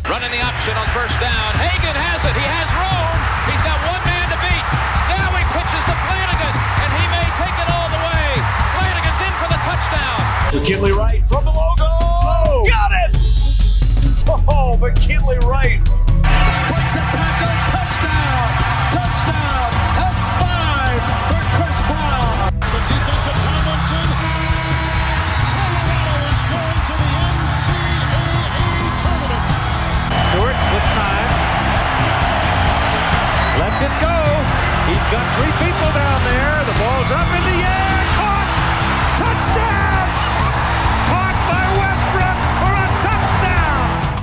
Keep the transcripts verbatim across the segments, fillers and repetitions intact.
Running the option on first down. Hagan has it. He has room. He's got one man to beat. Now he pitches to Flanagan, and he may take it all the way. Flanagan's in for the touchdown. McKinley Wright from the logo. Oh, got it! Oh, McKinley Wright. Breaks a tackle. Touchdown. Touchdown. That's five for Chris Brown. The defense of Tomlinson. Colorado is going to the N C double A tournament. Stewart with time. Lets it go. He's got three people down there. The ball's up in the air. Caught. Touchdown. Caught by Westbrook for a touchdown.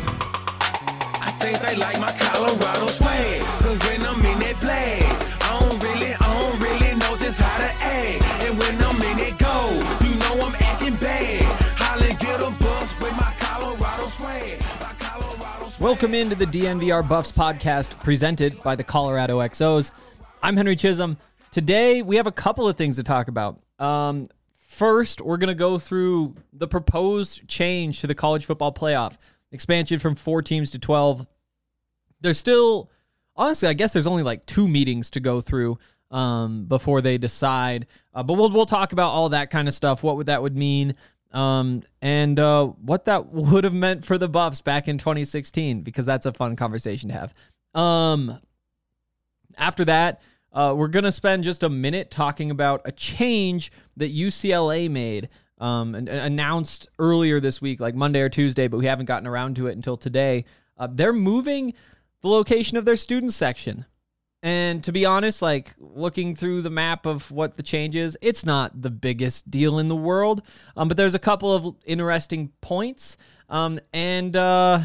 I think they like my Colorado swag. Cause when I'm in that play, I don't really, I don't really know just how to act. And when I'm in it go, you know I'm acting bad. Holly get a bus with my Colorado swag. My Colorado swag. Welcome into the D N V R Buffs podcast presented by the Colorado X Os. I'm Henry Chisholm. Today we have a couple of things to talk about. Um, first, we're going to go through the proposed change to the college football playoff, expansion from four teams to twelve. There's still, honestly, I guess there's only like two meetings to go through um, before they decide. Uh, but we'll we'll talk about all that kind of stuff, what would that would mean, um, and uh, what that would have meant for the Buffs back in twenty sixteen, because that's a fun conversation to have. Um, after that, uh, we're going to spend just a minute talking about a change that U C L A made um, and, and announced earlier this week, like Monday or Tuesday, but we haven't gotten around to it until today. Uh, they're moving the location of their student section. And to be honest, like looking through the map of what the change is, it's not the biggest deal in the world. Um, but there's a couple of interesting points. Um, and, uh,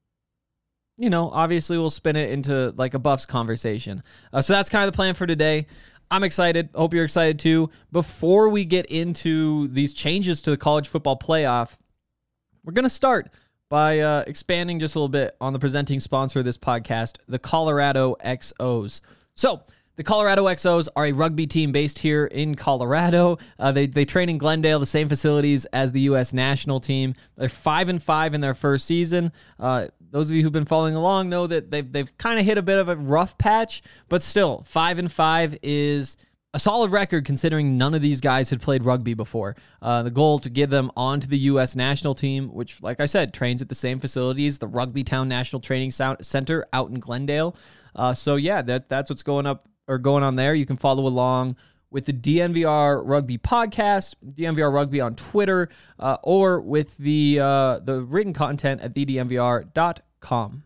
you know, obviously we'll spin it into like a Buffs conversation. Uh, so that's kind of the plan for today. I'm excited. Hope you're excited too. Before we get into these changes to the college football playoff, we're going to start by uh, expanding just a little bit on the presenting sponsor of this podcast, the Colorado X Os. So, the Colorado X Os are a rugby team based here in Colorado. Uh, they they train in Glendale, the same facilities as the U S national team. They're five and five in their first season. Uh, those of you who've been following along know that they've they've kind of hit a bit of a rough patch, but still, five and five is a solid record considering none of these guys had played rugby before. Uh, the goal to get them onto the U S national team, which, like I said, trains at the same facilities, the Rugby Town National Training Center out in Glendale. Uh, so yeah, that that's what's going up or going on there. You can follow along with the D N V R Rugby podcast, D N V R Rugby on Twitter, uh, or with the uh, the written content at the d n v r dot com.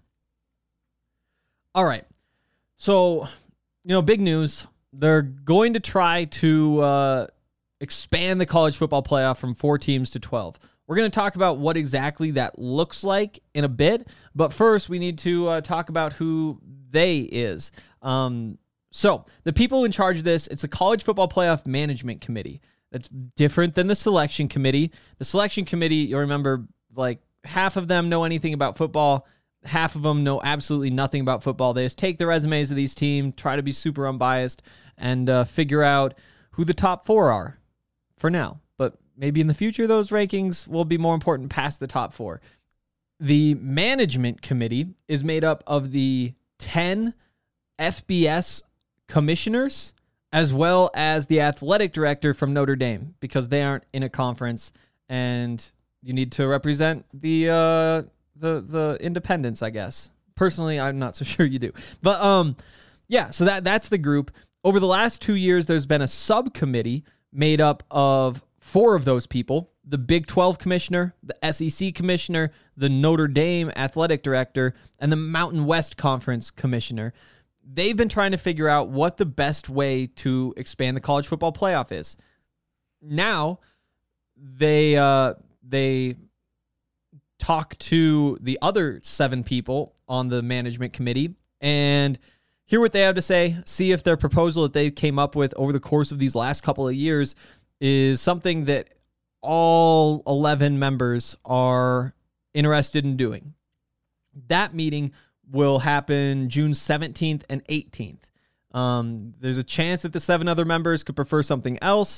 All right, so you know, big news. They're going to try to uh, expand the college football playoff from four teams to twelve. We're going to talk about what exactly that looks like in a bit, but first we need to uh, talk about who they is. Um, so the people in charge of this, it's the College Football Playoff Management Committee. That's different than the selection committee. The selection committee, you'll remember, like half of them know anything about football. Half of them know absolutely nothing about football. They just take the resumes of these teams, try to be super unbiased, and uh, figure out who the top four are for now. But maybe in the future, those rankings will be more important past the top four. The management committee is made up of the ten F B S commissioners, as well as the athletic director from Notre Dame, because they aren't in a conference, and you need to represent the... Uh, the the independents, I guess. Personally, I'm not so sure you do. But um, yeah, so that that's the group. Over the last two years, there's been a subcommittee made up of four of those people: the Big twelve commissioner, the S E C commissioner, the Notre Dame athletic director, and the Mountain West Conference commissioner. They've been trying to figure out what the best way to expand the college football playoff is. Now, they uh, they... talk to the other seven people on the management committee and hear what they have to say, see if their proposal that they came up with over the course of these last couple of years is something that all eleven members are interested in doing. That meeting will happen June seventeenth and eighteenth. Um, there's a chance that the seven other members could prefer something else,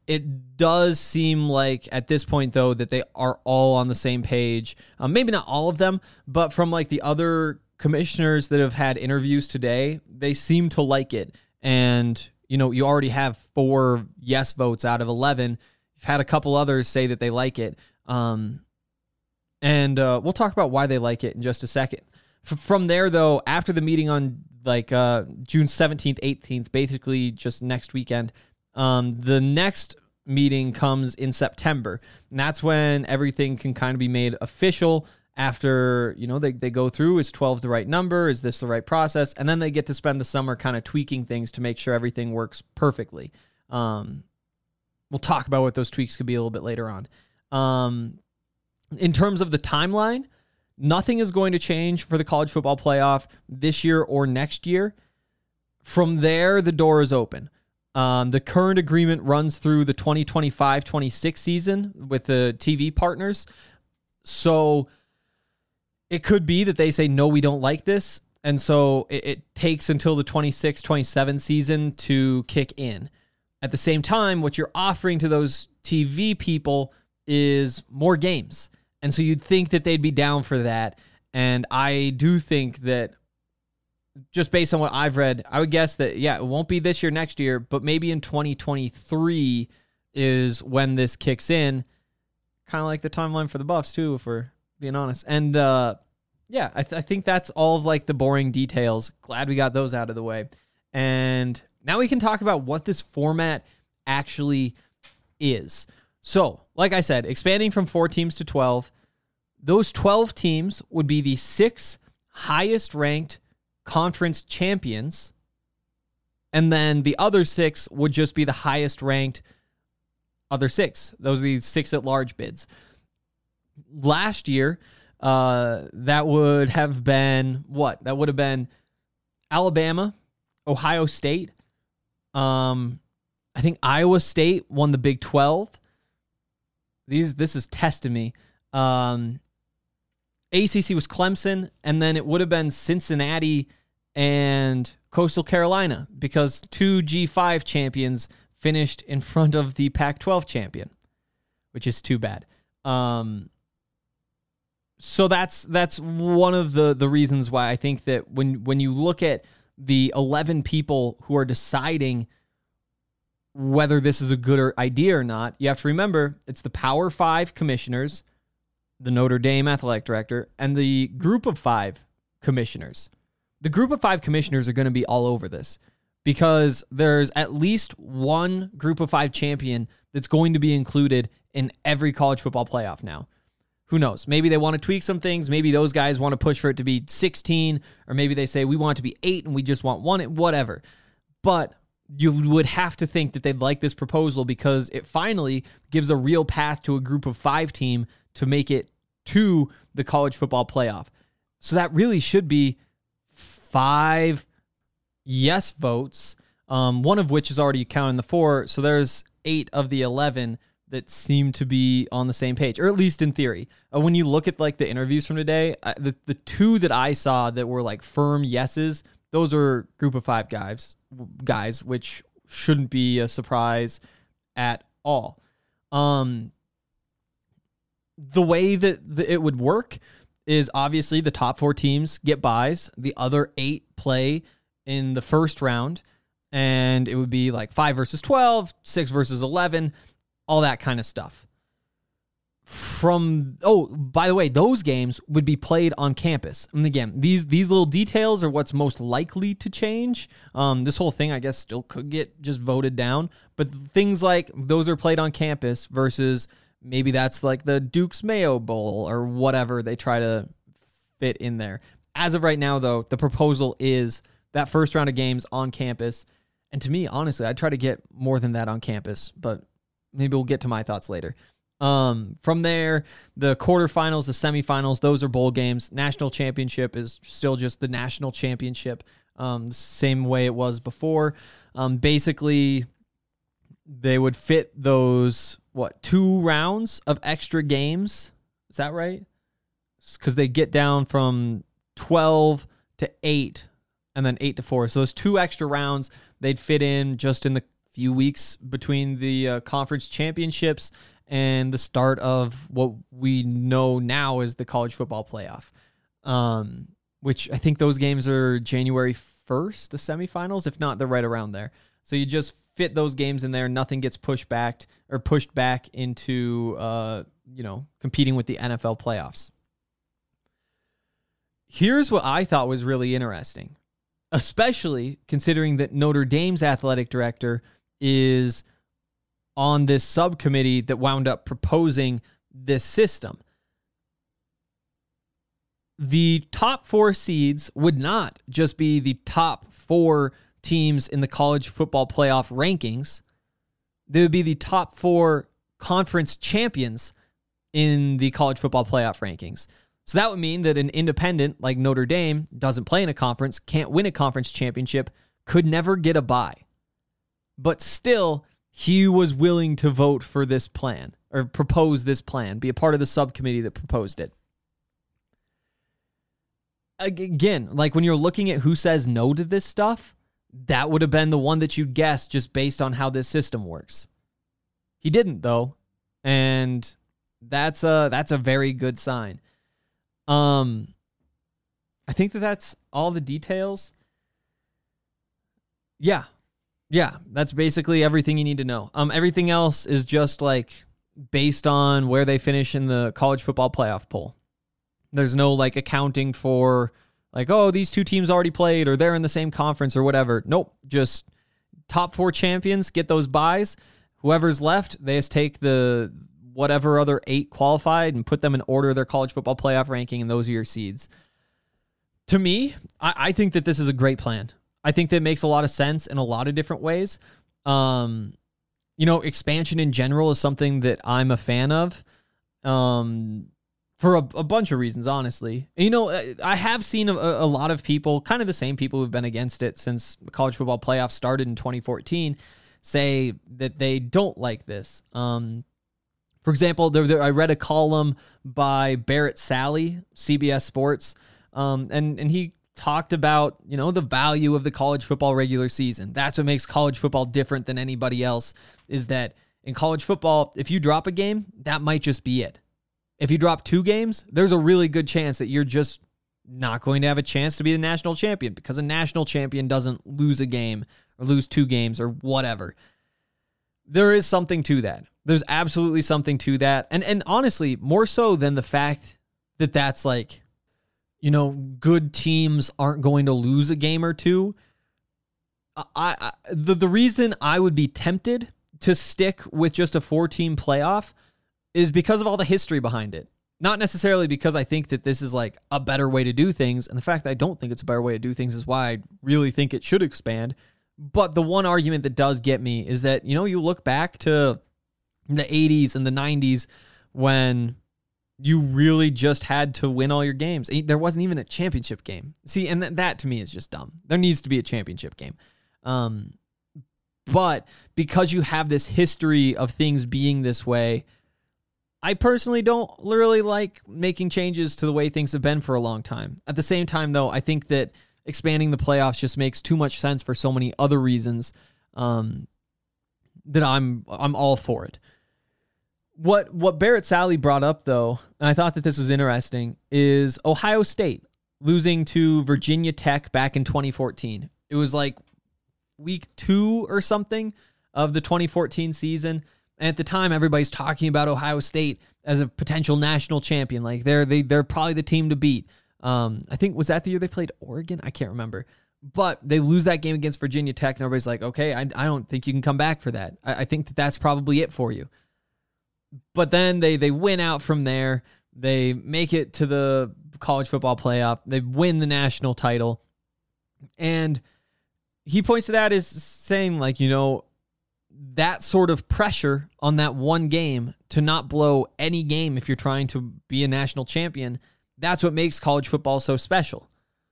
It does seem like at this point, though, that they are all on the same page. Um, maybe not all of them, but from like the other commissioners that have had interviews today, they seem to like it. And, you know, you already have four yes votes out of eleven. You've had a couple others say that they like it. Um, and uh, we'll talk about why they like it in just a second. F- from there, though, after the meeting on like uh, June seventeenth, eighteenth, basically just next weekend, um, the next meeting comes in September. And that's when everything can kind of be made official after, you know, they, they go through, is twelve the right number? Is this the right process? And then they get to spend the summer kind of tweaking things to make sure everything works perfectly. Um, we'll talk about what those tweaks could be a little bit later on. Um, in terms of the timeline, nothing is going to change for the college football playoff this year or next year. From there, the door is open. Um, the current agreement runs through the twenty twenty-five twenty-six season with the T V partners. So it could be that they say, no, we don't like this. And so it, it takes until the twenty-six twenty-seven season to kick in. At the same time, what you're offering to those T V people is more games. And so you'd think that they'd be down for that. And I do think that just based on what I've read, I would guess that, yeah, it won't be this year, next year, but maybe in twenty twenty-three is when this kicks in. Kind of like the timeline for the Buffs, too, if we're being honest. And, uh, yeah, I, th- I think that's all of, like, the boring details. Glad we got those out of the way. And now we can talk about what this format actually is. So, like I said, expanding from four teams to twelve, those twelve teams would be the six highest-ranked conference champions, and then the other six would just be the highest ranked other six. Those are the six at large bids. Last year, uh, that would have been what? That would have been Alabama, Ohio State. Um, I think Iowa State won the Big twelve. These, this is testing me. Um, A C C was Clemson, and then it would have been Cincinnati and Coastal Carolina because two G five champions finished in front of the Pac twelve champion, which is too bad. Um, so that's that's one of the, the reasons why I think that when, when you look at the eleven people who are deciding whether this is a good idea or not, you have to remember it's the Power Five commissioners, the Notre Dame athletic director, and the group of five commissioners. The group of five commissioners are going to be all over this because there's at least one group of five champion that's going to be included in every college football playoff now. Who knows? Maybe they want to tweak some things. Maybe those guys want to push for it to be sixteen, or maybe they say we want it to be eight and we just want one, whatever. But you would have to think that they'd like this proposal because it finally gives a real path to a group of five team to make it to the college football playoff. So that really should be five yes votes, um, one of which is already counting the four. So there's eight of the eleven that seem to be on the same page, or at least in theory. Uh, when you look at like the interviews from today, uh, the, the two that I saw that were like firm yeses, those are group of five guys, guys, which shouldn't be a surprise at all. Um, the way that the, it would work is obviously the top four teams get buys, the other eight play in the first round, and it would be like five versus twelve, six versus eleven, all that kind of stuff. From, oh, by the way, those games would be played on campus. And again, these these little details are what's most likely to change. Um, this whole thing, I guess, still could get just voted down. But things like those are played on campus versus maybe that's like the Duke's Mayo Bowl or whatever they try to fit in there. As of right now, though, the proposal is that first round of games on campus. And to me, honestly, I'd try to get more than that on campus, but maybe we'll get to my thoughts later. Um, from there, the quarterfinals, the semifinals, those are bowl games. National championship is still just the national championship, um, the same way it was before. Um, basically, they would fit those, what, two rounds of extra games? Is that right? Because they get down from twelve to eight and then eight to four. So those two extra rounds, they'd fit in just in the few weeks between the uh, conference championships and the start of what we know now as the college football playoff, um, which I think those games are January first, the semifinals. If not, they're right around there. So you just fit those games in there. Nothing gets pushed back or pushed back into, uh, you know, competing with the N F L playoffs. Here's what I thought was really interesting, especially considering that Notre Dame's athletic director is on this subcommittee that wound up proposing this system. The top four seeds would not just be the top four teams in the college football playoff rankings. They would be the top four conference champions in the college football playoff rankings. So that would mean that an independent like Notre Dame doesn't play in a conference, can't win a conference championship, could never get a bye. But still, he was willing to vote for this plan or propose this plan, be a part of the subcommittee that proposed it. Again, like when you're looking at who says no to this stuff, that would have been the one that you guessed just based on how this system works. He didn't, though, and that's a that's a very good sign. Um, I think that that's all the details. Yeah, yeah, that's basically everything you need to know. Um, everything else is just like based on where they finish in the college football playoff poll. There's no like accounting for like, oh, these two teams already played or they're in the same conference or whatever. Nope. Just top four champions get those buys. Whoever's left, they just take the whatever other eight qualified and put them in order of their college football playoff ranking, and those are your seeds. To me, I, I think that this is a great plan. I think that makes a lot of sense in a lot of different ways. Um, you know, expansion in general is something that I'm a fan of. Um, For a, a bunch of reasons, honestly. And, you know, I have seen a, a lot of people, kind of the same people who've been against it since the college football playoff started in twenty fourteen, say that they don't like this. Um, for example, there, there, I read a column by Barrett Sally, C B S Sports, um, and, and he talked about, you know, the value of the college football regular season. That's what makes college football different than anybody else, is that in college football, if you drop a game, that might just be it. If you drop two games, there's a really good chance that you're just not going to have a chance to be the national champion, because a national champion doesn't lose a game or lose two games or whatever. There is something to that. There's absolutely something to that. And and honestly, more so than the fact that that's like, you know, good teams aren't going to lose a game or two. I, I the, the reason I would be tempted to stick with just a four-team playoff is because of all the history behind it. Not necessarily because I think that this is like a better way to do things, and the fact that I don't think it's a better way to do things is why I really think it should expand. But the one argument that does get me is that, you know, you look back to the eighties and the nineties when you really just had to win all your games. There wasn't even a championship game. See, and th- that to me is just dumb. There needs to be a championship game. Um, but because you have this history of things being this way, I personally don't really like making changes to the way things have been for a long time. At the same time, though, I think that expanding the playoffs just makes too much sense for so many other reasons um, that I'm I'm all for it. What what Barrett Sally brought up, though, and I thought that this was interesting, is Ohio State losing to Virginia Tech back in twenty fourteen. It was like week two or something of the twenty fourteen season. And at the time, everybody's talking about Ohio State as a potential national champion. Like they're they they're probably the team to beat. Um, I think was that the year they played Oregon? I can't remember. But they lose that game against Virginia Tech, and everybody's like, okay, I, I don't think you can come back for that. I, I think that that's probably it for you. But then they they win out from there. They make it to the college football playoff. They win the national title. And he points to that as saying, like, you know, that sort of pressure on that one game to not blow any game if you're trying to be a national champion, that's what makes college football so special.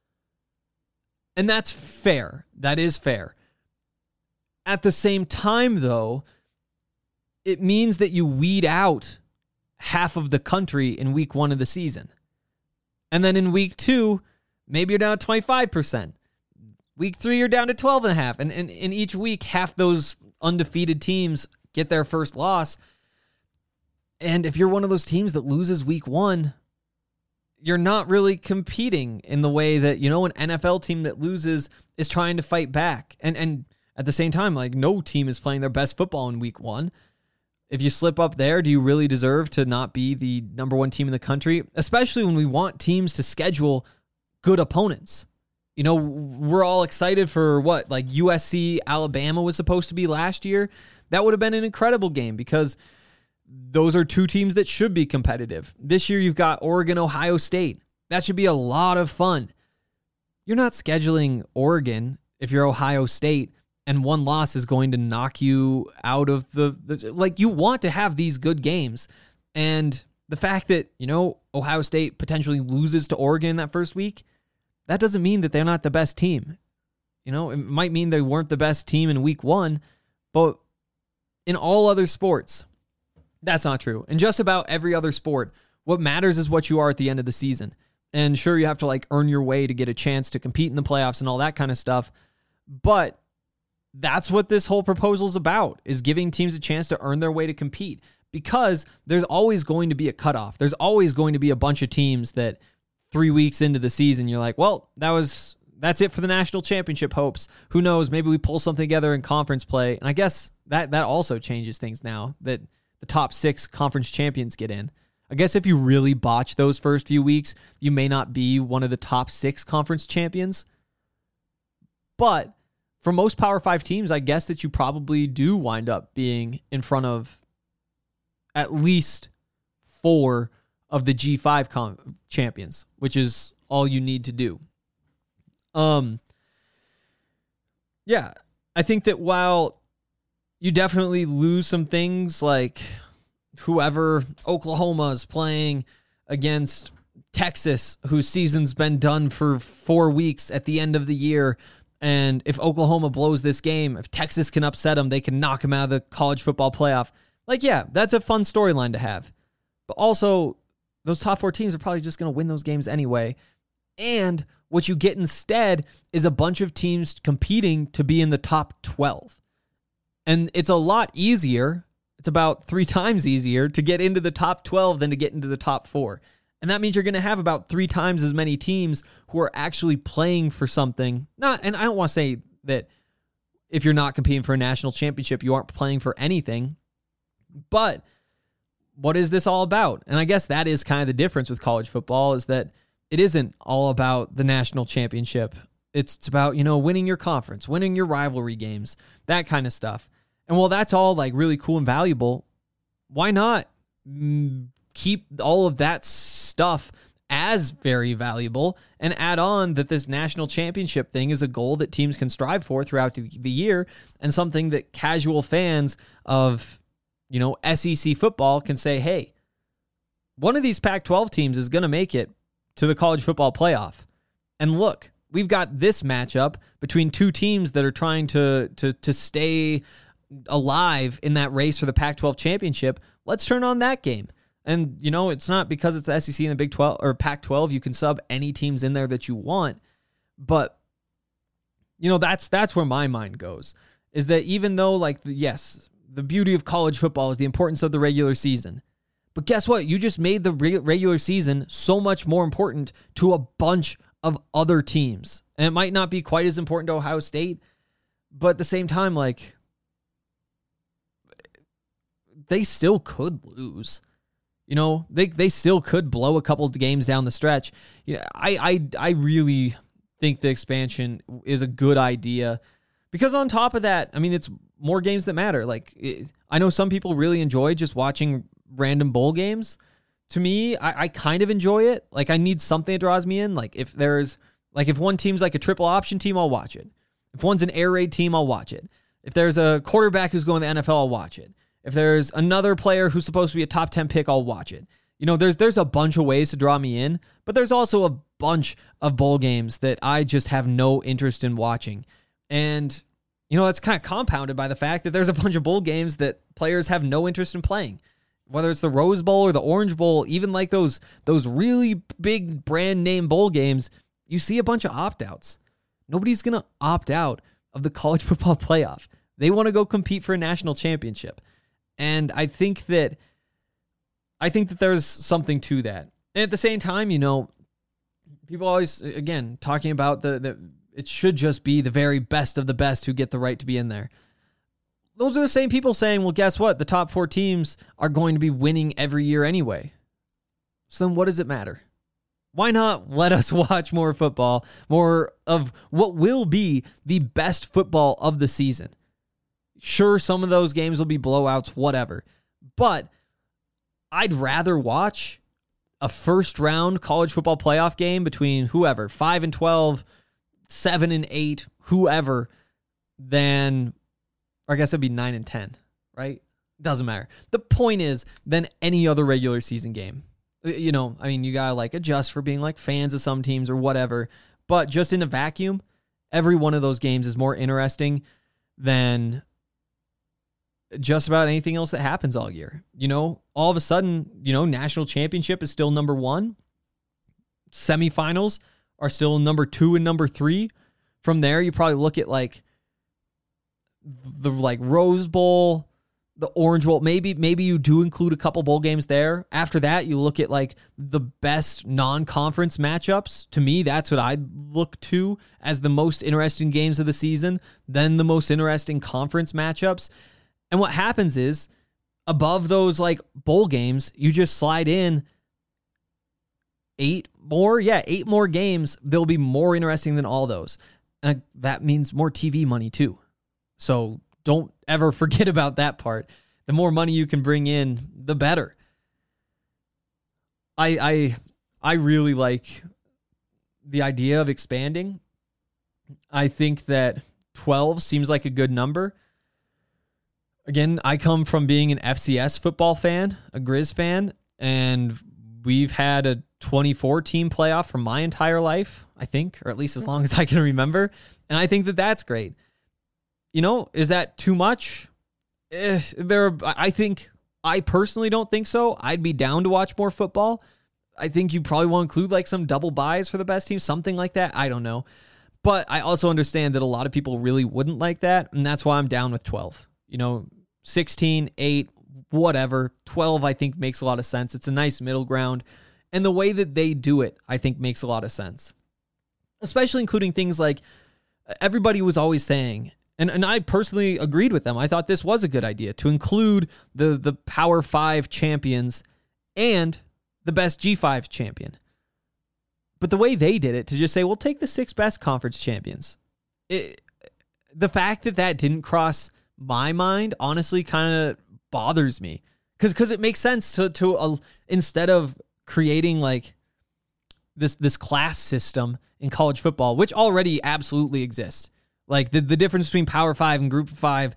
And that's fair. That is fair. At the same time, though, it means that you weed out half of the country in week one of the season. And then in week two, maybe you're down to twenty-five percent. Week three, you're down to twelve and a half. And in each week, half those undefeated teams get their first loss. And if you're one of those teams that loses week one, you're not really competing in the way that, you know, an N F L team that loses is trying to fight back. And and at the same time, like, no team is playing their best football in week one. If you slip up there, do you really deserve to not be the number one team in the country? Especially when we want teams to schedule good opponents. You know, we're all excited for what, like U S C, Alabama was supposed to be last year. That would have been an incredible game because those are two teams that should be competitive. This year you've got Oregon, Ohio State. That should be a lot of fun. You're not scheduling Oregon if you're Ohio State and one loss is going to knock you out of the, the like, you want to have these good games. And the fact that, you know, Ohio State potentially loses to Oregon that first week, that doesn't mean that they're not the best team. You know, it might mean they weren't the best team in week one, but in all other sports, that's not true. In just about every other sport, what matters is what you are at the end of the season. And sure, you have to like earn your way to get a chance to compete in the playoffs and all that kind of stuff. But that's what this whole proposal is about, is giving teams a chance to earn their way to compete, because there's always going to be a cutoff. There's always going to be a bunch of teams that three weeks into the season, you're like, well, that was, that's it for the national championship hopes. Who knows? Maybe we pull something together in conference play. And I guess that, that also changes things now that the top six conference champions get in. I guess if you really botch those first few weeks, you may not be one of the top six conference champions. But for most Power Five teams, I guess that you probably do wind up being in front of at least four of the G five com- champions, which is all you need to do. Um, yeah, I think that while you definitely lose some things, like whoever Oklahoma is playing against Texas, whose season's been done for four weeks at the end of the year, and if Oklahoma blows this game, if Texas can upset them, they can knock them out of the college football playoff. Like, yeah, that's a fun storyline to have. But also, those top four teams are probably just going to win those games anyway. And what you get instead is a bunch of teams competing to be in the top twelve. And it's a lot easier. It's about three times easier to get into the top twelve than to get into the top four. And that means you're going to have about three times as many teams who are actually playing for something. Not, and I don't want to say that if you're not competing for a national championship, you aren't playing for anything. But what is this all about? And I guess that is kind of the difference with college football, is that it isn't all about the national championship. It's, it's about, you know, winning your conference, winning your rivalry games, that kind of stuff. And while that's all like really cool and valuable, why not mm, keep all of that stuff as very valuable and add on that this national championship thing is a goal that teams can strive for throughout the year, and something that casual fans of, you know, S E C football can say, hey, one of these Pac twelve teams is going to make it to the college football playoff. And look, we've got this matchup between two teams that are trying to to to stay alive in that race for the Pac twelve championship. Let's turn on that game. And, you know, it's not because it's the S E C and the Big twelve or Pac twelve. You can sub any teams in there that you want. But, you know, that's that's where my mind goes, is that even though, like, the, yes, the beauty of college football is the importance of the regular season. But guess what? You just made the re- regular season so much more important to a bunch of other teams. And it might not be quite as important to Ohio State, but at the same time, like, they still could lose. You know, they they still could blow a couple of games down the stretch. You know, I I I really think the expansion is a good idea, because on top of that, I mean, it's more games that matter. Like, it, I know some people really enjoy just watching random bowl games. To me, I, I kind of enjoy it. Like, I need something that draws me in. Like, if there's like if one team's like a triple option team, I'll watch it. If one's an air raid team, I'll watch it. If there's a quarterback who's going to the N F L, I'll watch it. If there's another player who's supposed to be a top ten pick, I'll watch it. You know, there's there's a bunch of ways to draw me in, but there's also a bunch of bowl games that I just have no interest in watching. And, you know, that's kind of compounded by the fact that there's a bunch of bowl games that players have no interest in playing. Whether it's the Rose Bowl or the Orange Bowl, even like those those really big brand name bowl games, you see a bunch of opt-outs. Nobody's going to opt out of the college football playoff. They want to go compete for a national championship. And I think that I think that there's something to that. And at the same time, you know, people always, again, talking about the, the it should just be the very best of the best who get the right to be in there. Those are the same people saying, well, guess what? The top four teams are going to be winning every year anyway. So then what does it matter? Why not let us watch more football, more of what will be the best football of the season? Sure, some of those games will be blowouts, whatever. But I'd rather watch a first round college football playoff game between whoever, five and twelve, seven and eight, whoever, than, or I guess it'd be nine and ten, right? Doesn't matter. The point is, than any other regular season game. You know, I mean, you gotta like adjust for being like fans of some teams or whatever, but just in a vacuum, every one of those games is more interesting than just about anything else that happens all year. You know, all of a sudden, you know, national championship is still number one. Semifinals are still number two and number three. From there, you probably look at like the like Rose Bowl, the Orange Bowl. Maybe maybe you do include a couple bowl games there. After that, you look at like the best non-conference matchups. To me, that's what I'd look to as the most interesting games of the season. Then the most interesting conference matchups. And what happens is, above those like bowl games, you just slide in eight more. Yeah, eight more games. They'll be more interesting than all those. And that means more T V money too. So don't ever forget about that part. The more money you can bring in, the better. I I I really like the idea of expanding. I think that twelve seems like a good number. Again, I come from being an F C S football fan, a Grizz fan, and we've had a twenty-four team playoff for my entire life, I think, or at least as long as I can remember. And I think that that's great. You know, is that too much? Eh, there, I think, I personally don't think so. I'd be down to watch more football. I think you probably want to include like some double buys for the best team, something like that. I don't know. But I also understand that a lot of people really wouldn't like that, and that's why I'm down with twelve. You know, sixteen, eight, whatever. twelve, I think, makes a lot of sense. It's a nice middle ground. And the way that they do it, I think, makes a lot of sense. Especially including things like everybody was always saying, and, and I personally agreed with them. I thought this was a good idea to include the, the Power five champions and the best G five champion. But the way they did it, to just say, we'll take the six best conference champions. It, the fact that that didn't cross my mind honestly kind of bothers me, because because it makes sense to to uh, instead of creating like this this class system in college football, which already absolutely exists, like the, the difference between Power Five and Group of Five,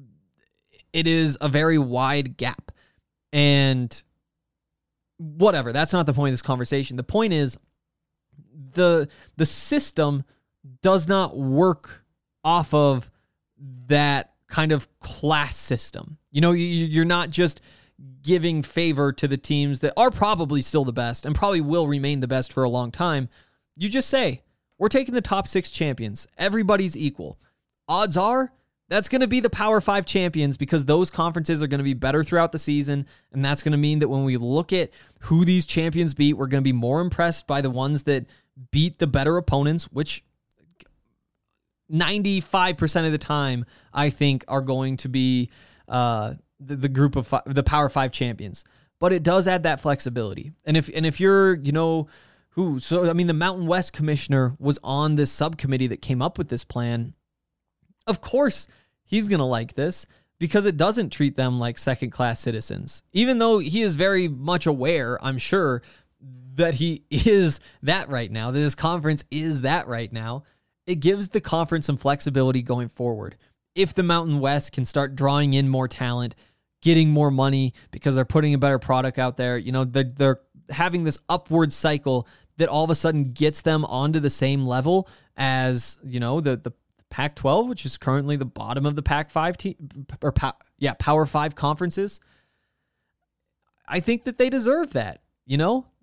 it is a very wide gap. And whatever, that's not the point of this conversation. The point is the the system does not work off of that kind of class system. You know, you're not just giving favor to the teams that are probably still the best and probably will remain the best for a long time. You just say, we're taking the top six champions. Everybody's equal. Odds are that's going to be the Power Five champions, because those conferences are going to be better throughout the season. And that's going to mean that when we look at who these champions beat, we're going to be more impressed by the ones that beat the better opponents, which ninety-five percent of the time, I think, are going to be uh, the, the group of five, the Power Five champions. But it does add that flexibility. And if and if you're, you know, who, so I mean, the Mountain West commissioner was on this subcommittee that came up with this plan. Of course, he's going to like this, because it doesn't treat them like second-class citizens. Even though he is very much aware, I'm sure, that he is that right now, that his conference is that right now. It gives the conference some flexibility going forward. If the Mountain West can start drawing in more talent, getting more money because they're putting a better product out there, you know, they're, they're having this upward cycle that all of a sudden gets them onto the same level as, you know, the, the Pac twelve, which is currently the bottom of the Pac five team, or yeah, Power five conferences. I think that they deserve that. You know,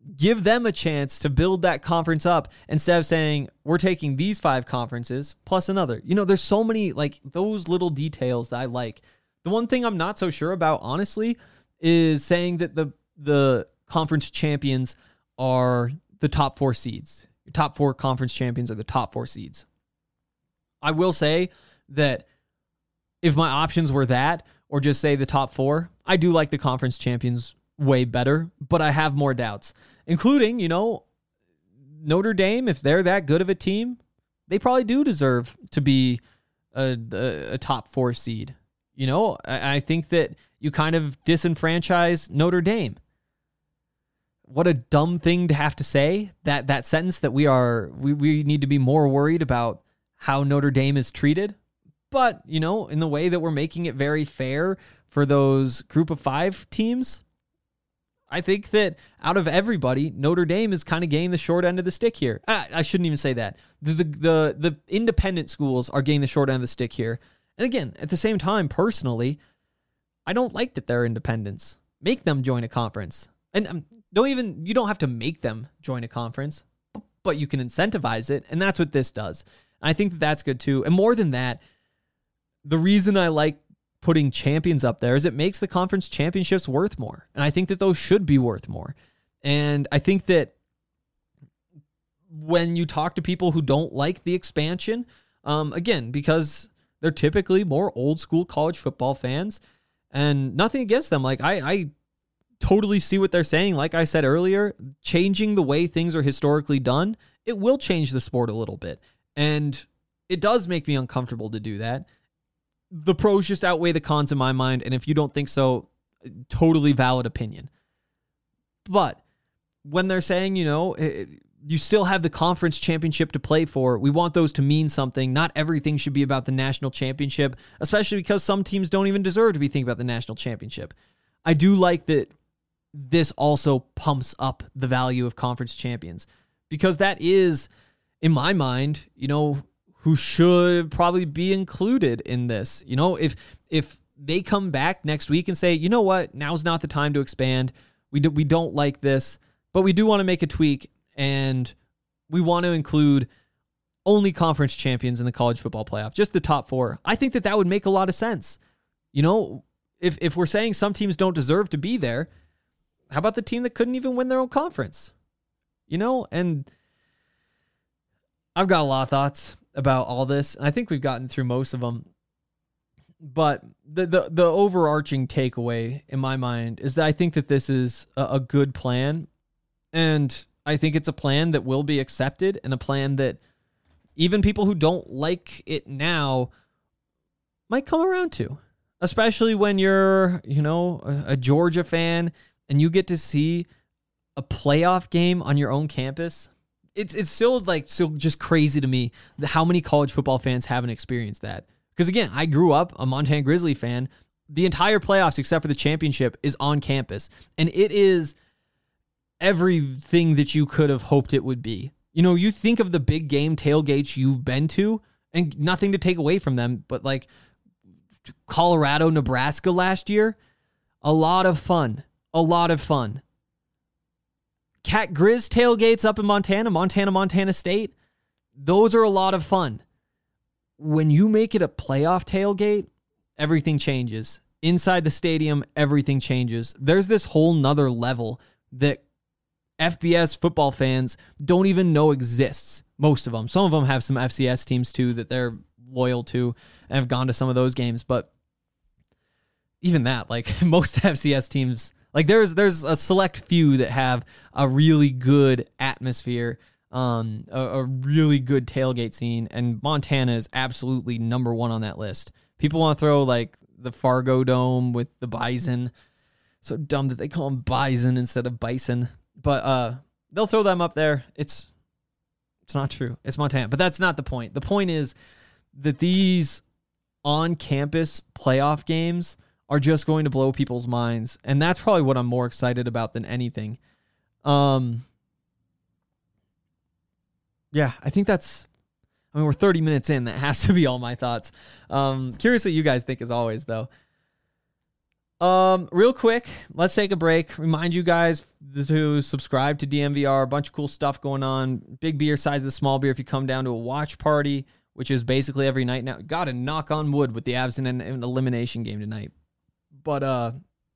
give them a chance to build that conference up instead of saying, we're taking these five conferences plus another. You know, there's so many, like, those little details that I like. The one thing I'm not so sure about, honestly, is saying that the the conference champions are the top four seeds. Your top four conference champions are the top four seeds. I will say that if my options were that, or just say the top four, I do like the conference champions way better, but I have more doubts, including, you know, Notre Dame. If they're that good of a team, they probably do deserve to be a, a, a top four seed. You know, I, I think that you kind of disenfranchise Notre Dame. What a dumb thing to have to say, that that sentence, that we are we, we need to be more worried about how Notre Dame is treated. But, you know, in the way that we're making it very fair for those group of five teams, I think that out of everybody, Notre Dame is kind of getting the short end of the stick here. I, I shouldn't even say that. The, the the the independent schools are getting the short end of the stick here. And again, at the same time, personally, I don't like that they're independents. Make them join a conference. And um, don't even, you don't have to make them join a conference, but you can incentivize it. And that's what this does. And I think that that's good too. And more than that, the reason I like putting champions up there is it makes the conference championships worth more. And I think that those should be worth more. And I think that when you talk to people who don't like the expansion, um, again, because they're typically more old school college football fans, and nothing against them. Like I, I totally see what they're saying. Like I said earlier, changing the way things are historically done, it will change the sport a little bit. And it does make me uncomfortable to do that. The pros just outweigh the cons in my mind. And if you don't think so, totally valid opinion. But when they're saying, you know, it, you still have the conference championship to play for, we want those to mean something. Not everything should be about the national championship, especially because some teams don't even deserve to be thinking about the national championship. I do like that this also pumps up the value of conference champions, because that is, in my mind, you know, who should probably be included in this. You know, if if they come back next week and say, you know what, now's not the time to expand. We do, we don't like this, but we do want to make a tweak, and we want to include only conference champions in the college football playoff, just the top four. I think that that would make a lot of sense. You know, if if we're saying some teams don't deserve to be there, how about the team that couldn't even win their own conference? You know, and I've got a lot of thoughts about all this, and I think we've gotten through most of them. But the the, the overarching takeaway in my mind is that I think that this is a, a good plan, and I think it's a plan that will be accepted, and a plan that even people who don't like it now might come around to, especially when you're, you know, a, a Georgia fan and you get to see a playoff game on your own campus. It's it's still like still just crazy to me that how many college football fans haven't experienced that. Because again, I grew up a Montana Grizzly fan. The entire playoffs, except for the championship, is on campus, and it is everything that you could have hoped it would be. You know, you think of the big game tailgates you've been to, and nothing to take away from them, but like Colorado, Nebraska last year, a lot of fun, a lot of fun. Cat Grizz tailgates up in Montana, Montana, Montana State, those are a lot of fun. When you make it a playoff tailgate, everything changes. Inside the stadium, everything changes. There's this whole nother level that F B S football fans don't even know exists. Most of them. Some of them have some F C S teams too that they're loyal to and have gone to some of those games. But even that, like most F C S teams, like there's there's a select few that have a really good atmosphere, um, a, a really good tailgate scene, and Montana is absolutely number one on that list. People want to throw like the Fargo Dome with the Bison. So dumb that they call them Bison instead of Bison. But uh, they'll throw them up there. It's it's not true. It's Montana. But that's not the point. The point is that these on-campus playoff games are just going to blow people's minds. And that's probably what I'm more excited about than anything. Um, yeah, I think that's... I mean, we're thirty minutes in. That has to be all my thoughts. Um, curious what you guys think as always, though. Um, real quick, let's take a break. Remind you guys to subscribe to D N V R. A bunch of cool stuff going on. Big beer, size of the small beer. If you come down to a watch party, which is basically every night now. Got to knock on wood with the Avs in an, an elimination game tonight. But uh,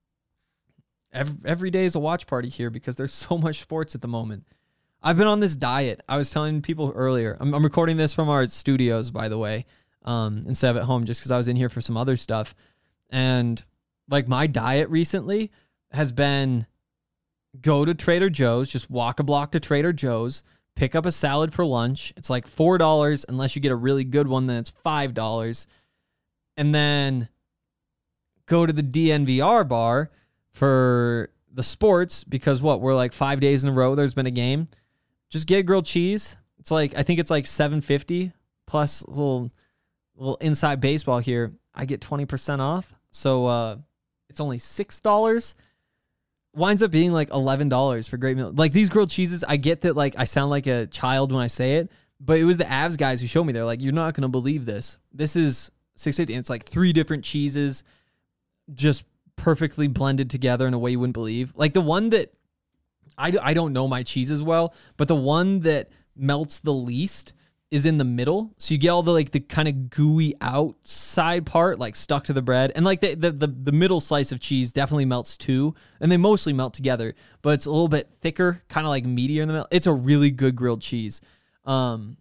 every, every day is a watch party here because there's so much sports at the moment. I've been on this diet. I was telling people earlier. I'm, I'm recording this from our studios, by the way, um, instead of at home, just because I was in here for some other stuff. And like my diet recently has been go to Trader Joe's, just walk a block to Trader Joe's, pick up a salad for lunch. It's like four dollars unless you get a really good one, then it's five dollars. And then go to the D N V R bar for the sports because what, we're like five days in a row there's been a game. Just get grilled cheese. It's like, I think it's like seven fifty plus a little, little inside baseball here. I get twenty percent off. So uh, it's only six dollars. Winds up being like eleven dollars for great meal. Like these grilled cheeses, I get that like I sound like a child when I say it, but it was the Avs guys who showed me. They're like, you're not going to believe this. This is six fifty. And it's like three different cheeses just perfectly blended together in a way you wouldn't believe. Like the one that, I, I don't know my cheeses well, but the one that melts the least is in the middle. So you get all the like the kind of gooey outside part like stuck to the bread. And like the, the the the middle slice of cheese definitely melts too. And they mostly melt together, but it's a little bit thicker, kind of like meatier in the middle. It's a really good grilled cheese. Um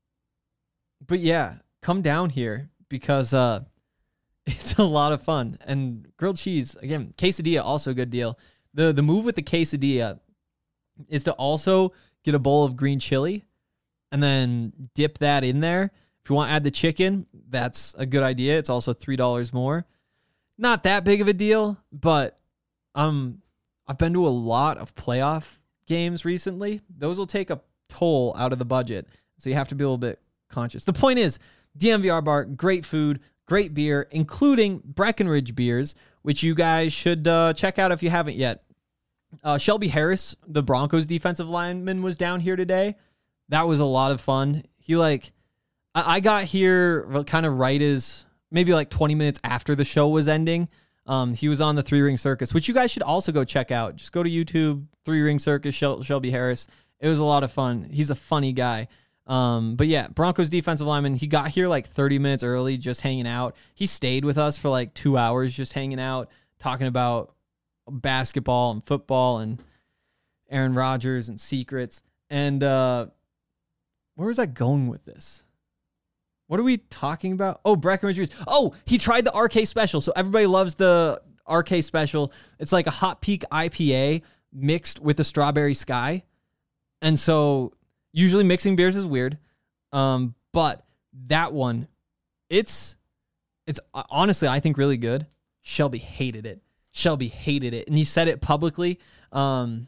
but yeah, come down here because uh it's a lot of fun. And grilled cheese, again, quesadilla, also a good deal. The the move with the quesadilla is to also get a bowl of green chili and then dip that in there. If you want to add the chicken, that's a good idea. It's also three dollars more. Not that big of a deal, but um, I've been to a lot of playoff games recently. Those will take a toll out of the budget, so you have to be a little bit conscious. The point is, D N V R bar, great food, great beer, including Breckenridge beers, which you guys should uh, check out if you haven't yet. Uh, Shelby Harris, the Broncos defensive lineman, was down here today. That was a lot of fun. He like, I, I got here kind of right as maybe like twenty minutes after the show was ending. Um, he was on the Three Ring Circus, which you guys should also go check out. Just go to YouTube, Three Ring Circus, Shel- Shelby Harris. It was a lot of fun. He's a funny guy. Um, but yeah, Broncos defensive lineman. He got here like thirty minutes early, just hanging out. He stayed with us for like two hours, just hanging out, talking about basketball and football and Aaron Rodgers and secrets. And uh, where was I going with this? What are we talking about? Oh, Breckenridge beers. Oh, he tried the R K special. So everybody loves the R K special. It's like a Hot Peak I P A mixed with a Strawberry Sky. And so usually mixing beers is weird. Um, but that one, it's, it's honestly, I think really good. Shelby hated it. Shelby hated it. And he said it publicly. Um,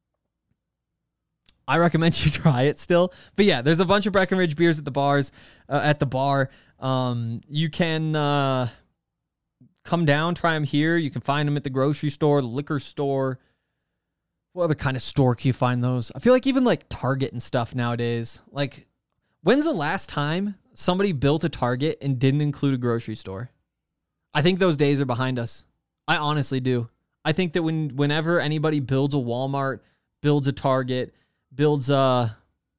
I recommend you try it still. But yeah, there's a bunch of Breckenridge beers at the bars, uh, at the bar. Um, you can uh, come down, try them here. You can find them at the grocery store, the liquor store. What other kind of store can you find those? I feel like even like Target and stuff nowadays. Like, when's the last time somebody built a Target and didn't include a grocery store? I think those days are behind us. I honestly do. I think that when whenever anybody builds a Walmart, builds a Target, builds a...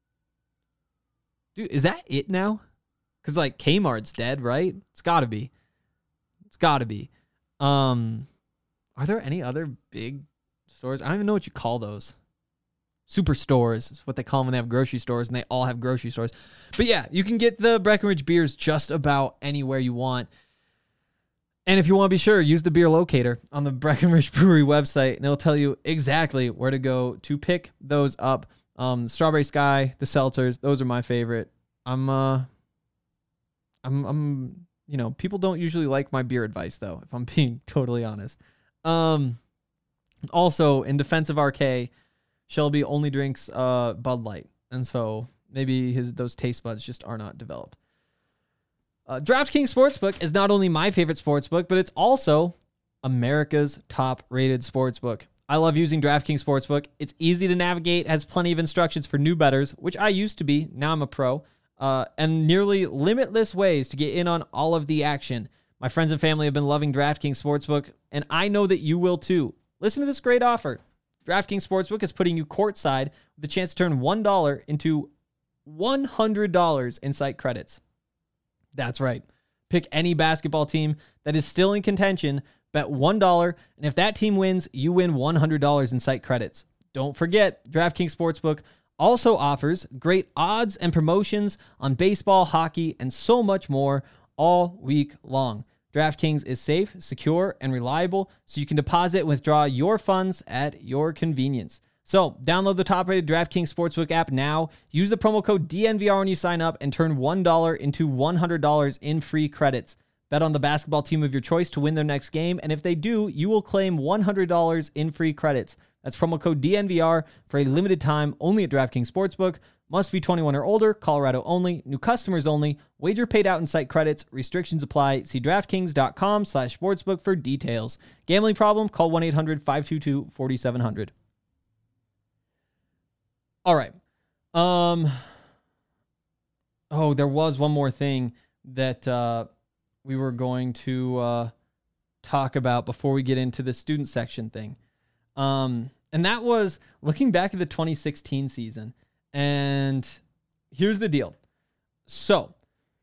Dude, is that it now? Because, like, Kmart's dead, right? It's got to be. It's got to be. Um, are there any other big stores? I don't even know what you call those. Superstores is what they call them when they have grocery stores, and they all have grocery stores. But, yeah, you can get the Breckenridge beers just about anywhere you want. And if you want to be sure, use the beer locator on the Breckenridge Brewery website, and it'll tell you exactly where to go to pick those up. Um, Strawberry Sky, the seltzers, those are my favorite. I'm, uh, I'm, I'm, you know, people don't usually like my beer advice though, if I'm being totally honest. Um, also in defense of R K, Shelby only drinks uh Bud Light, and so maybe his those taste buds just are not developed. Uh, DraftKings Sportsbook is not only my favorite sportsbook, but it's also America's top-rated sportsbook. I love using DraftKings Sportsbook. It's easy to navigate, has plenty of instructions for new bettors, which I used to be. Now I'm a pro. Uh, and nearly limitless ways to get in on all of the action. My friends and family have been loving DraftKings Sportsbook, and I know that you will too. Listen to this great offer. DraftKings Sportsbook is putting you courtside with the chance to turn one dollar into one hundred dollars in site credits. That's right. Pick any basketball team that is still in contention, bet one dollar, and if that team wins, you win one hundred dollars in site credits. Don't forget, DraftKings Sportsbook also offers great odds and promotions on baseball, hockey, and so much more all week long. DraftKings is safe, secure, and reliable, so you can deposit and withdraw your funds at your convenience. So, download the top-rated DraftKings Sportsbook app now, use the promo code D N V R when you sign up, and turn one dollar into one hundred dollars in free credits. Bet on the basketball team of your choice to win their next game, and if they do, you will claim one hundred dollars in free credits. That's promo code D N V R for a limited time only at DraftKings Sportsbook. Must be twenty-one or older, Colorado only, new customers only, wager paid out in site credits, restrictions apply. See DraftKings.com slash sportsbook for details. Gambling problem? Call one eight hundred five two two four seven zero zero. All right. Um. Oh, there was one more thing that uh, we were going to uh, talk about before we get into the student section thing. Um, and that was looking back at the twenty sixteen season. And here's the deal. So,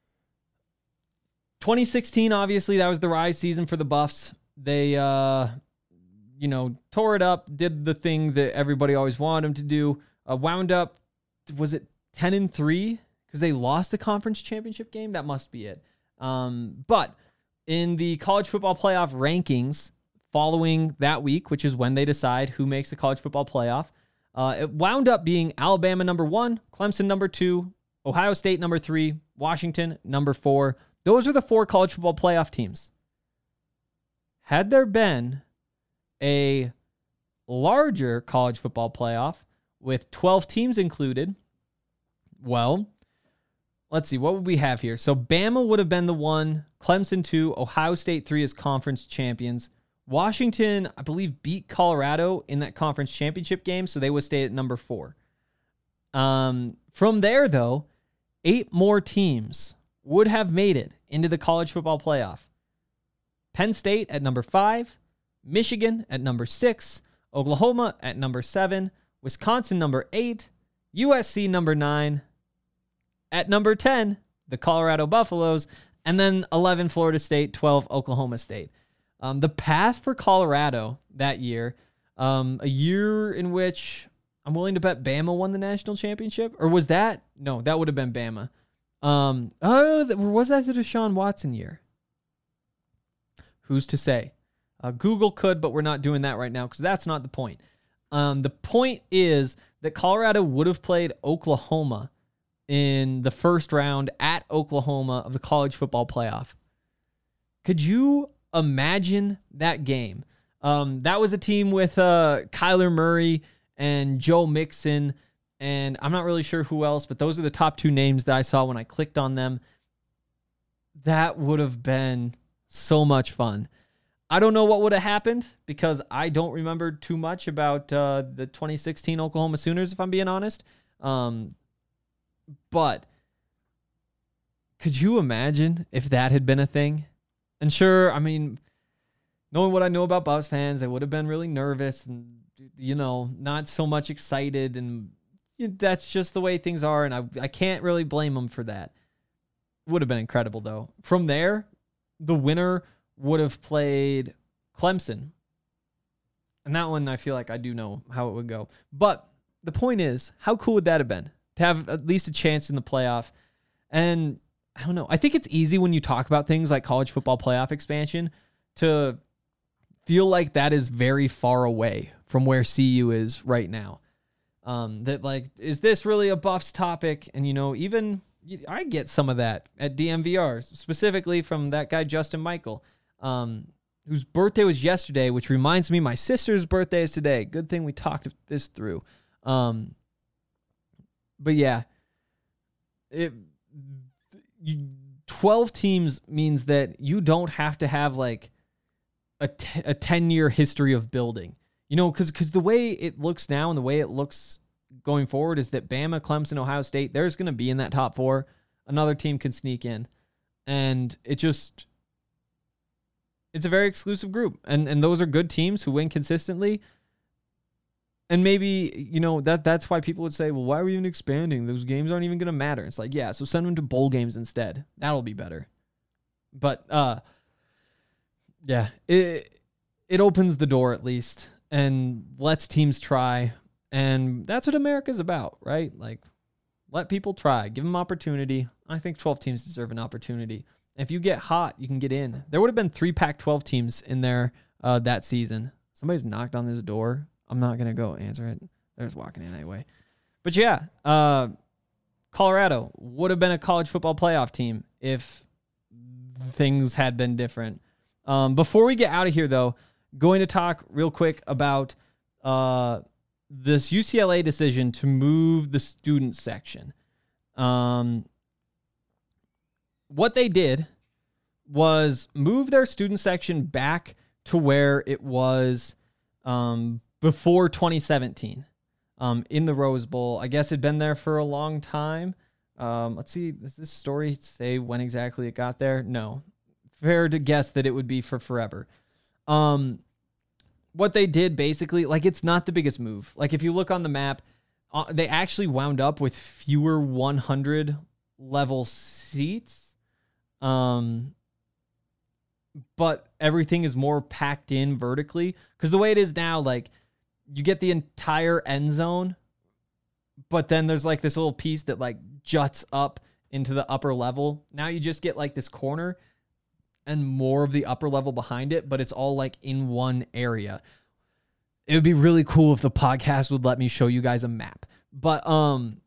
twenty sixteen, obviously, that was the rise season for the Buffs. They, uh, you know, tore it up, did the thing that everybody always wanted them to do. Uh, wound up, was it ten and three? Because they lost the conference championship game? That must be it. Um, but in the college football playoff rankings following that week, which is when they decide who makes the college football playoff, Uh, it wound up being Alabama number one, Clemson number two, Ohio State number three, Washington number four. Those are the four college football playoff teams. Had there been a larger college football playoff with twelve teams included, well, let's see, what would we have here? So Bama would have been the one, Clemson two, Ohio State three as conference champions. Washington, I believe, beat Colorado in that conference championship game, so they would stay at number four. Um, from there, though, eight more teams would have made it into the college football playoff. Penn State at number five, Michigan at number six, Oklahoma at number seven, Wisconsin number eight, U S C number nine, at number ten, the Colorado Buffaloes, and then eleven, Florida State, twelve, Oklahoma State. Um, the path for Colorado that year, um, a year in which I'm willing to bet Bama won the national championship, or was that? No, that would have been Bama. Um, oh, was that the Deshaun Watson year? Who's to say? Uh, Google could, but we're not doing that right now because that's not the point. Um, the point is that Colorado would have played Oklahoma in the first round at Oklahoma of the college football playoff. Could you imagine that game? Um, that was a team with uh, Kyler Murray and Joe Mixon, and I'm not really sure who else, but those are the top two names that I saw when I clicked on them. That would have been so much fun. I don't know what would have happened because I don't remember too much about uh, the twenty sixteen Oklahoma Sooners, if I'm being honest. Um, but could you imagine if that had been a thing? And sure, I mean, knowing what I know about Buffs fans, they would have been really nervous and, you know, not so much excited. And that's just the way things are. And I, I can't really blame them for that. Would have been incredible, though. From there, the winner would have played Clemson. And that one, I feel like I do know how it would go. But the point is, how cool would that have been? To have at least a chance in the playoff. And I don't know. I think it's easy when you talk about things like college football playoff expansion to feel like that is very far away from where C U is right now. Um, that like, is this really a Buffs topic? And, you know, even I get some of that at D M V R, specifically from that guy, Justin Michael, um, whose birthday was yesterday, which reminds me my sister's birthday is today. Good thing we talked this through. Um, but yeah, it, you, twelve teams means that you don't have to have like a, t- a ten-year history of building. You know, because because the way it looks now and the way it looks going forward is that Bama, Clemson, Ohio State, there's going to be in that top four. Another team can sneak in. And it just, It's a very exclusive group, and and those are good teams who win consistently. And maybe, you know, that that's why people would say, well, why are we even expanding? Those games aren't even going to matter. It's like, yeah, so send them to bowl games instead. That'll be better. But, uh, yeah, it it opens the door at least and lets teams try. And that's what America's about, right? Like, let people try. Give them opportunity. I think twelve teams deserve an opportunity. If you get hot, you can get in. There would have been three Pac twelve teams in there uh, that season. Somebody's knocked on this door. I'm not going to go answer it. They're just walking in anyway. But yeah, uh, Colorado would have been a college football playoff team if things had been different. Um, before we get out of here, though, going to talk real quick about uh, this U C L A decision to move the student section. Um, what they did was move their student section back to where it was um, before twenty seventeen um, in the Rose Bowl. I guess it'd been there for a long time. Um, let's see, does this story say when exactly it got there? No. Fair to guess that it would be for forever. Um, what they did basically, like, it's not the biggest move. Like, if you look on the map, uh, they actually wound up with fewer one hundred level seats. Um, but everything is more packed in vertically. Because the way it is now, like, you get the entire end zone, but then there's like this little piece that like juts up into the upper level. Now you just get like this corner and more of the upper level behind it, but it's all like in one area. It would be really cool if the podcast would let me show you guys a map. But um,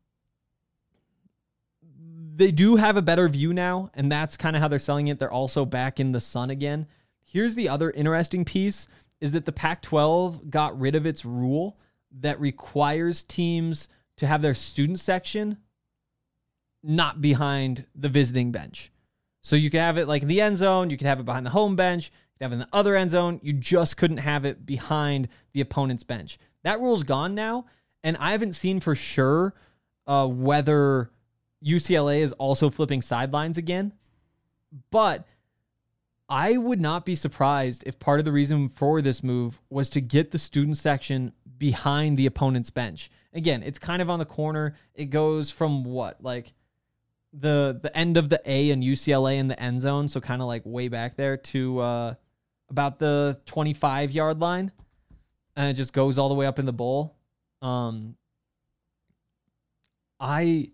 they do have a better view now, and that's kind of how they're selling it. They're also back in the sun again. Here's the other interesting piece, is that the Pac twelve got rid of its rule that requires teams to have their student section not behind the visiting bench. So you could have it like in the end zone, you could have it behind the home bench, you could have it in the other end zone, you just couldn't have it behind the opponent's bench. That rule's gone now, and I haven't seen for sure uh, whether U C L A is also flipping sidelines again, but I would not be surprised if part of the reason for this move was to get the student section behind the opponent's bench. Again, it's kind of on the corner. It goes from what, like the the end of the A in U C L A in the end zone, so kind of like way back there to uh, about the twenty-five yard line, and it just goes all the way up in the bowl. Um, I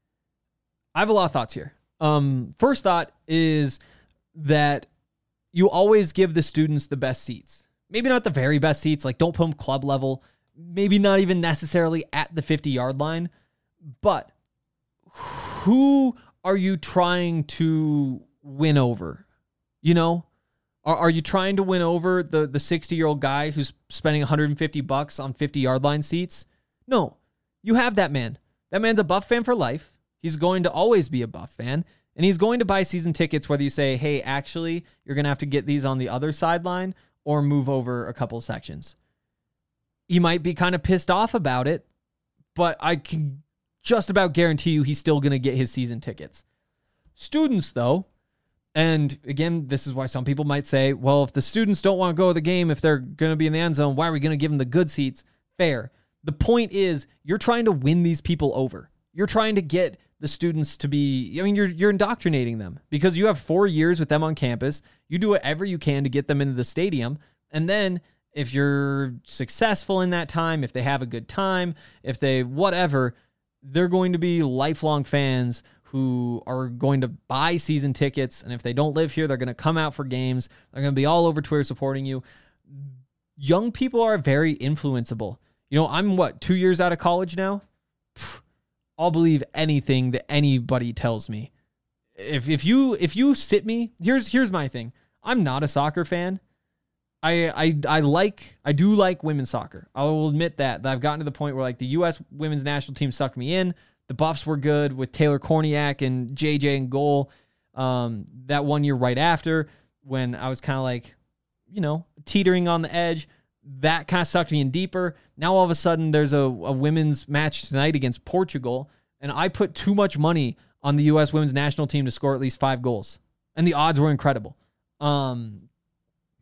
I have a lot of thoughts here. Um, first thought is that you always give the students the best seats. Maybe not the very best seats, like don't put them club level, maybe not even necessarily at the fifty yard line, but who are you trying to win over? You know, are, are you trying to win over the, the sixty year old guy who's spending one hundred fifty bucks on fifty yard line seats? No, you have that man. That man's a Buff fan for life. He's going to always be a Buff fan. And he's going to buy season tickets whether you say, hey, actually, you're going to have to get these on the other sideline or move over a couple sections. He might be kind of pissed off about it, but I can just about guarantee you he's still going to get his season tickets. Students, though, and again, this is why some people might say, well, if the students don't want to go to the game, if they're going to be in the end zone, why are we going to give them the good seats? Fair. The point is, you're trying to win these people over. You're trying to get the students to be, I mean, you're you're indoctrinating them because you have four years with them on campus. You do whatever you can to get them into the stadium. And then if you're successful in that time, if they have a good time, if they whatever, they're going to be lifelong fans who are going to buy season tickets. And if they don't live here, they're going to come out for games. They're going to be all over Twitter supporting you. Young people are very influenceable. You know, I'm what, two years out of college now? Pfft. I'll believe anything that anybody tells me. If if you if you sit me, here's here's my thing. I'm not a soccer fan. I I I like I do like women's soccer. I will admit that, that I've gotten to the point where like the U S women's national team sucked me in. The Buffs were good with Taylor Korniak and J J in goal. Um, that one year right after when I was kind of like, you know, teetering on the edge. That kind of sucked me in deeper. Now all of a sudden there's a, a women's match tonight against Portugal, and I put too much money on the U S women's national team to score at least five goals, and the odds were incredible. Um,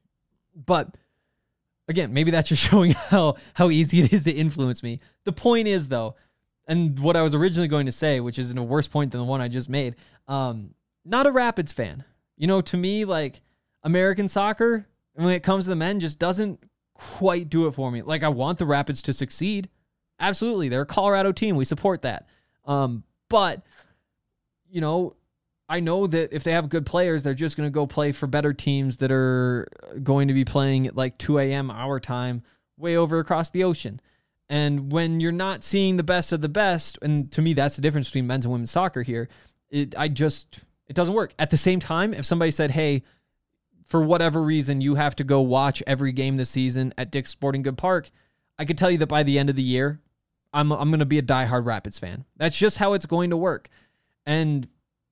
But again, maybe that's just showing how, how easy it is to influence me. The point is, though, and what I was originally going to say, which is in a worse point than the one I just made, um, not a Rapids fan. You know, to me, like, American soccer, when it comes to the men, just doesn't quite do it for me. Like, I want the Rapids to succeed. Absolutely. They're a Colorado team. We support that. Um, but, you know, I know that if they have good players, they're just going to go play for better teams that are going to be playing at like two a.m. our time way over across the ocean. And when you're not seeing the best of the best, and to me, that's the difference between men's and women's soccer here, it, I just, it doesn't work. At the same time, if somebody said, hey, for whatever reason, you have to go watch every game this season at Dick's Sporting Good Park, I could tell you that by the end of the year, I'm I'm going to be a diehard Rapids fan. That's just how it's going to work. And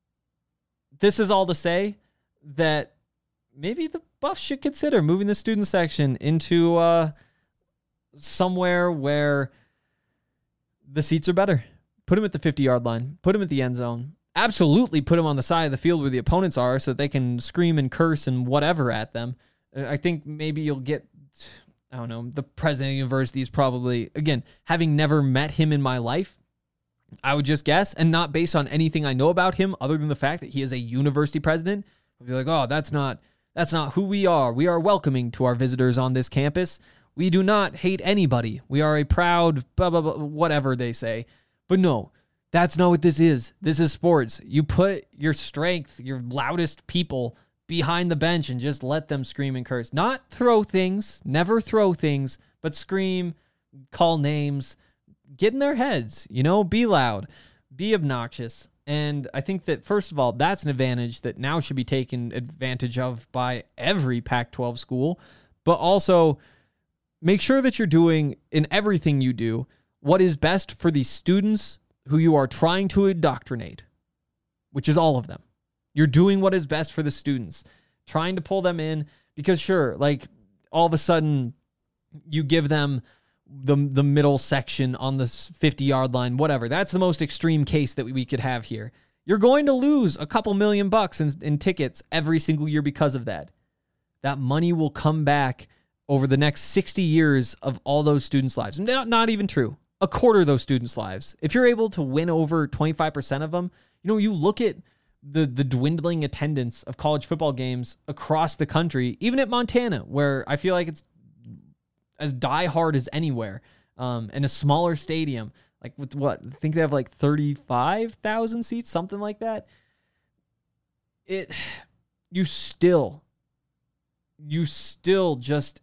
this is all to say that maybe the Buffs should consider moving the student section into uh, somewhere where the seats are better. Put them at the fifty-yard line. Put them at the end zone. Absolutely put them on the side of the field where the opponents are so that they can scream and curse and whatever at them. I think maybe you'll get, I don't know, the president of the university is probably, again, having never met him in my life, I would just guess, and not based on anything I know about him other than the fact that he is a university president, I'd be like, oh, that's not that's not who we are. We are welcoming to our visitors on this campus. We do not hate anybody. We are a proud blah, blah, blah, whatever they say. But no, that's not what this is. This is sports. You put your strength, your loudest people behind the bench and just let them scream and curse. Not throw things, never throw things, but scream, call names, get in their heads, you know, be loud, be obnoxious. And I think that, first of all, that's an advantage that now should be taken advantage of by every Pac twelve school, but also make sure that you're doing in everything you do what is best for the students who you are trying to indoctrinate, which is all of them. You're doing what is best for the students, trying to pull them in because, sure, like all of a sudden you give them the the middle section on the fifty-yard line, whatever. That's the most extreme case that we could have here. You're going to lose a couple million bucks in, in tickets every single year because of that. That money will come back over the next sixty years of all those students' lives. Not, not even true. A quarter of those students' lives. If you're able to win over twenty-five percent of them, you know, you look at the the dwindling attendance of college football games across the country, even at Montana, where I feel like it's as diehard as anywhere, um, in a smaller stadium, like with what, I think they have like thirty-five thousand seats, something like that. It, you still, you still just,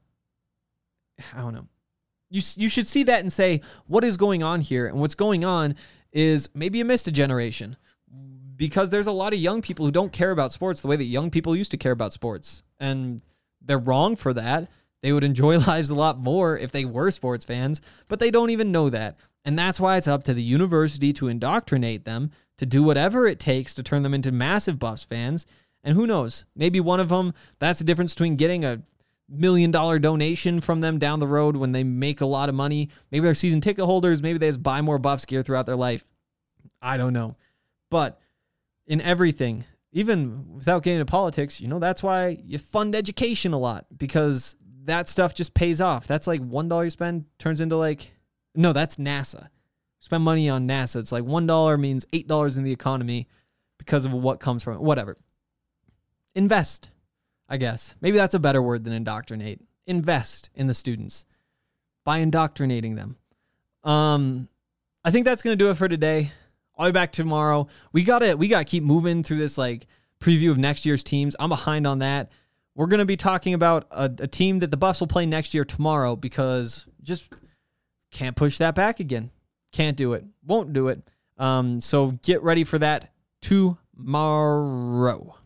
I don't know. You, you should see that and say, what is going on here? And what's going on is maybe you missed a generation because there's a lot of young people who don't care about sports the way that young people used to care about sports. And they're wrong for that. They would enjoy lives a lot more if they were sports fans, but they don't even know that. And that's why it's up to the university to indoctrinate them, to do whatever it takes to turn them into massive Buffs fans. And who knows, maybe one of them, that's the difference between getting a million dollar donation from them down the road when they make a lot of money. Maybe they're season ticket holders. Maybe they just buy more Buffs gear throughout their life. I don't know. But in everything, even without getting into politics, you know, that's why you fund education a lot, because that stuff just pays off. That's like one dollar you spend turns into like, no, that's NASA. Spend money on NASA. It's like one dollar means eight dollars in the economy because of what comes from it. Whatever. Invest, I guess. Maybe that's a better word than indoctrinate. Invest in the students by indoctrinating them. Um, I think that's going to do it for today. I'll be back tomorrow. We got to we got to keep moving through this like preview of next year's teams. I'm behind on that. We're going to be talking about a, a team that the Buffs will play next year tomorrow because just can't push that back again. Can't do it. Won't do it. Um, so get ready for that tomorrow.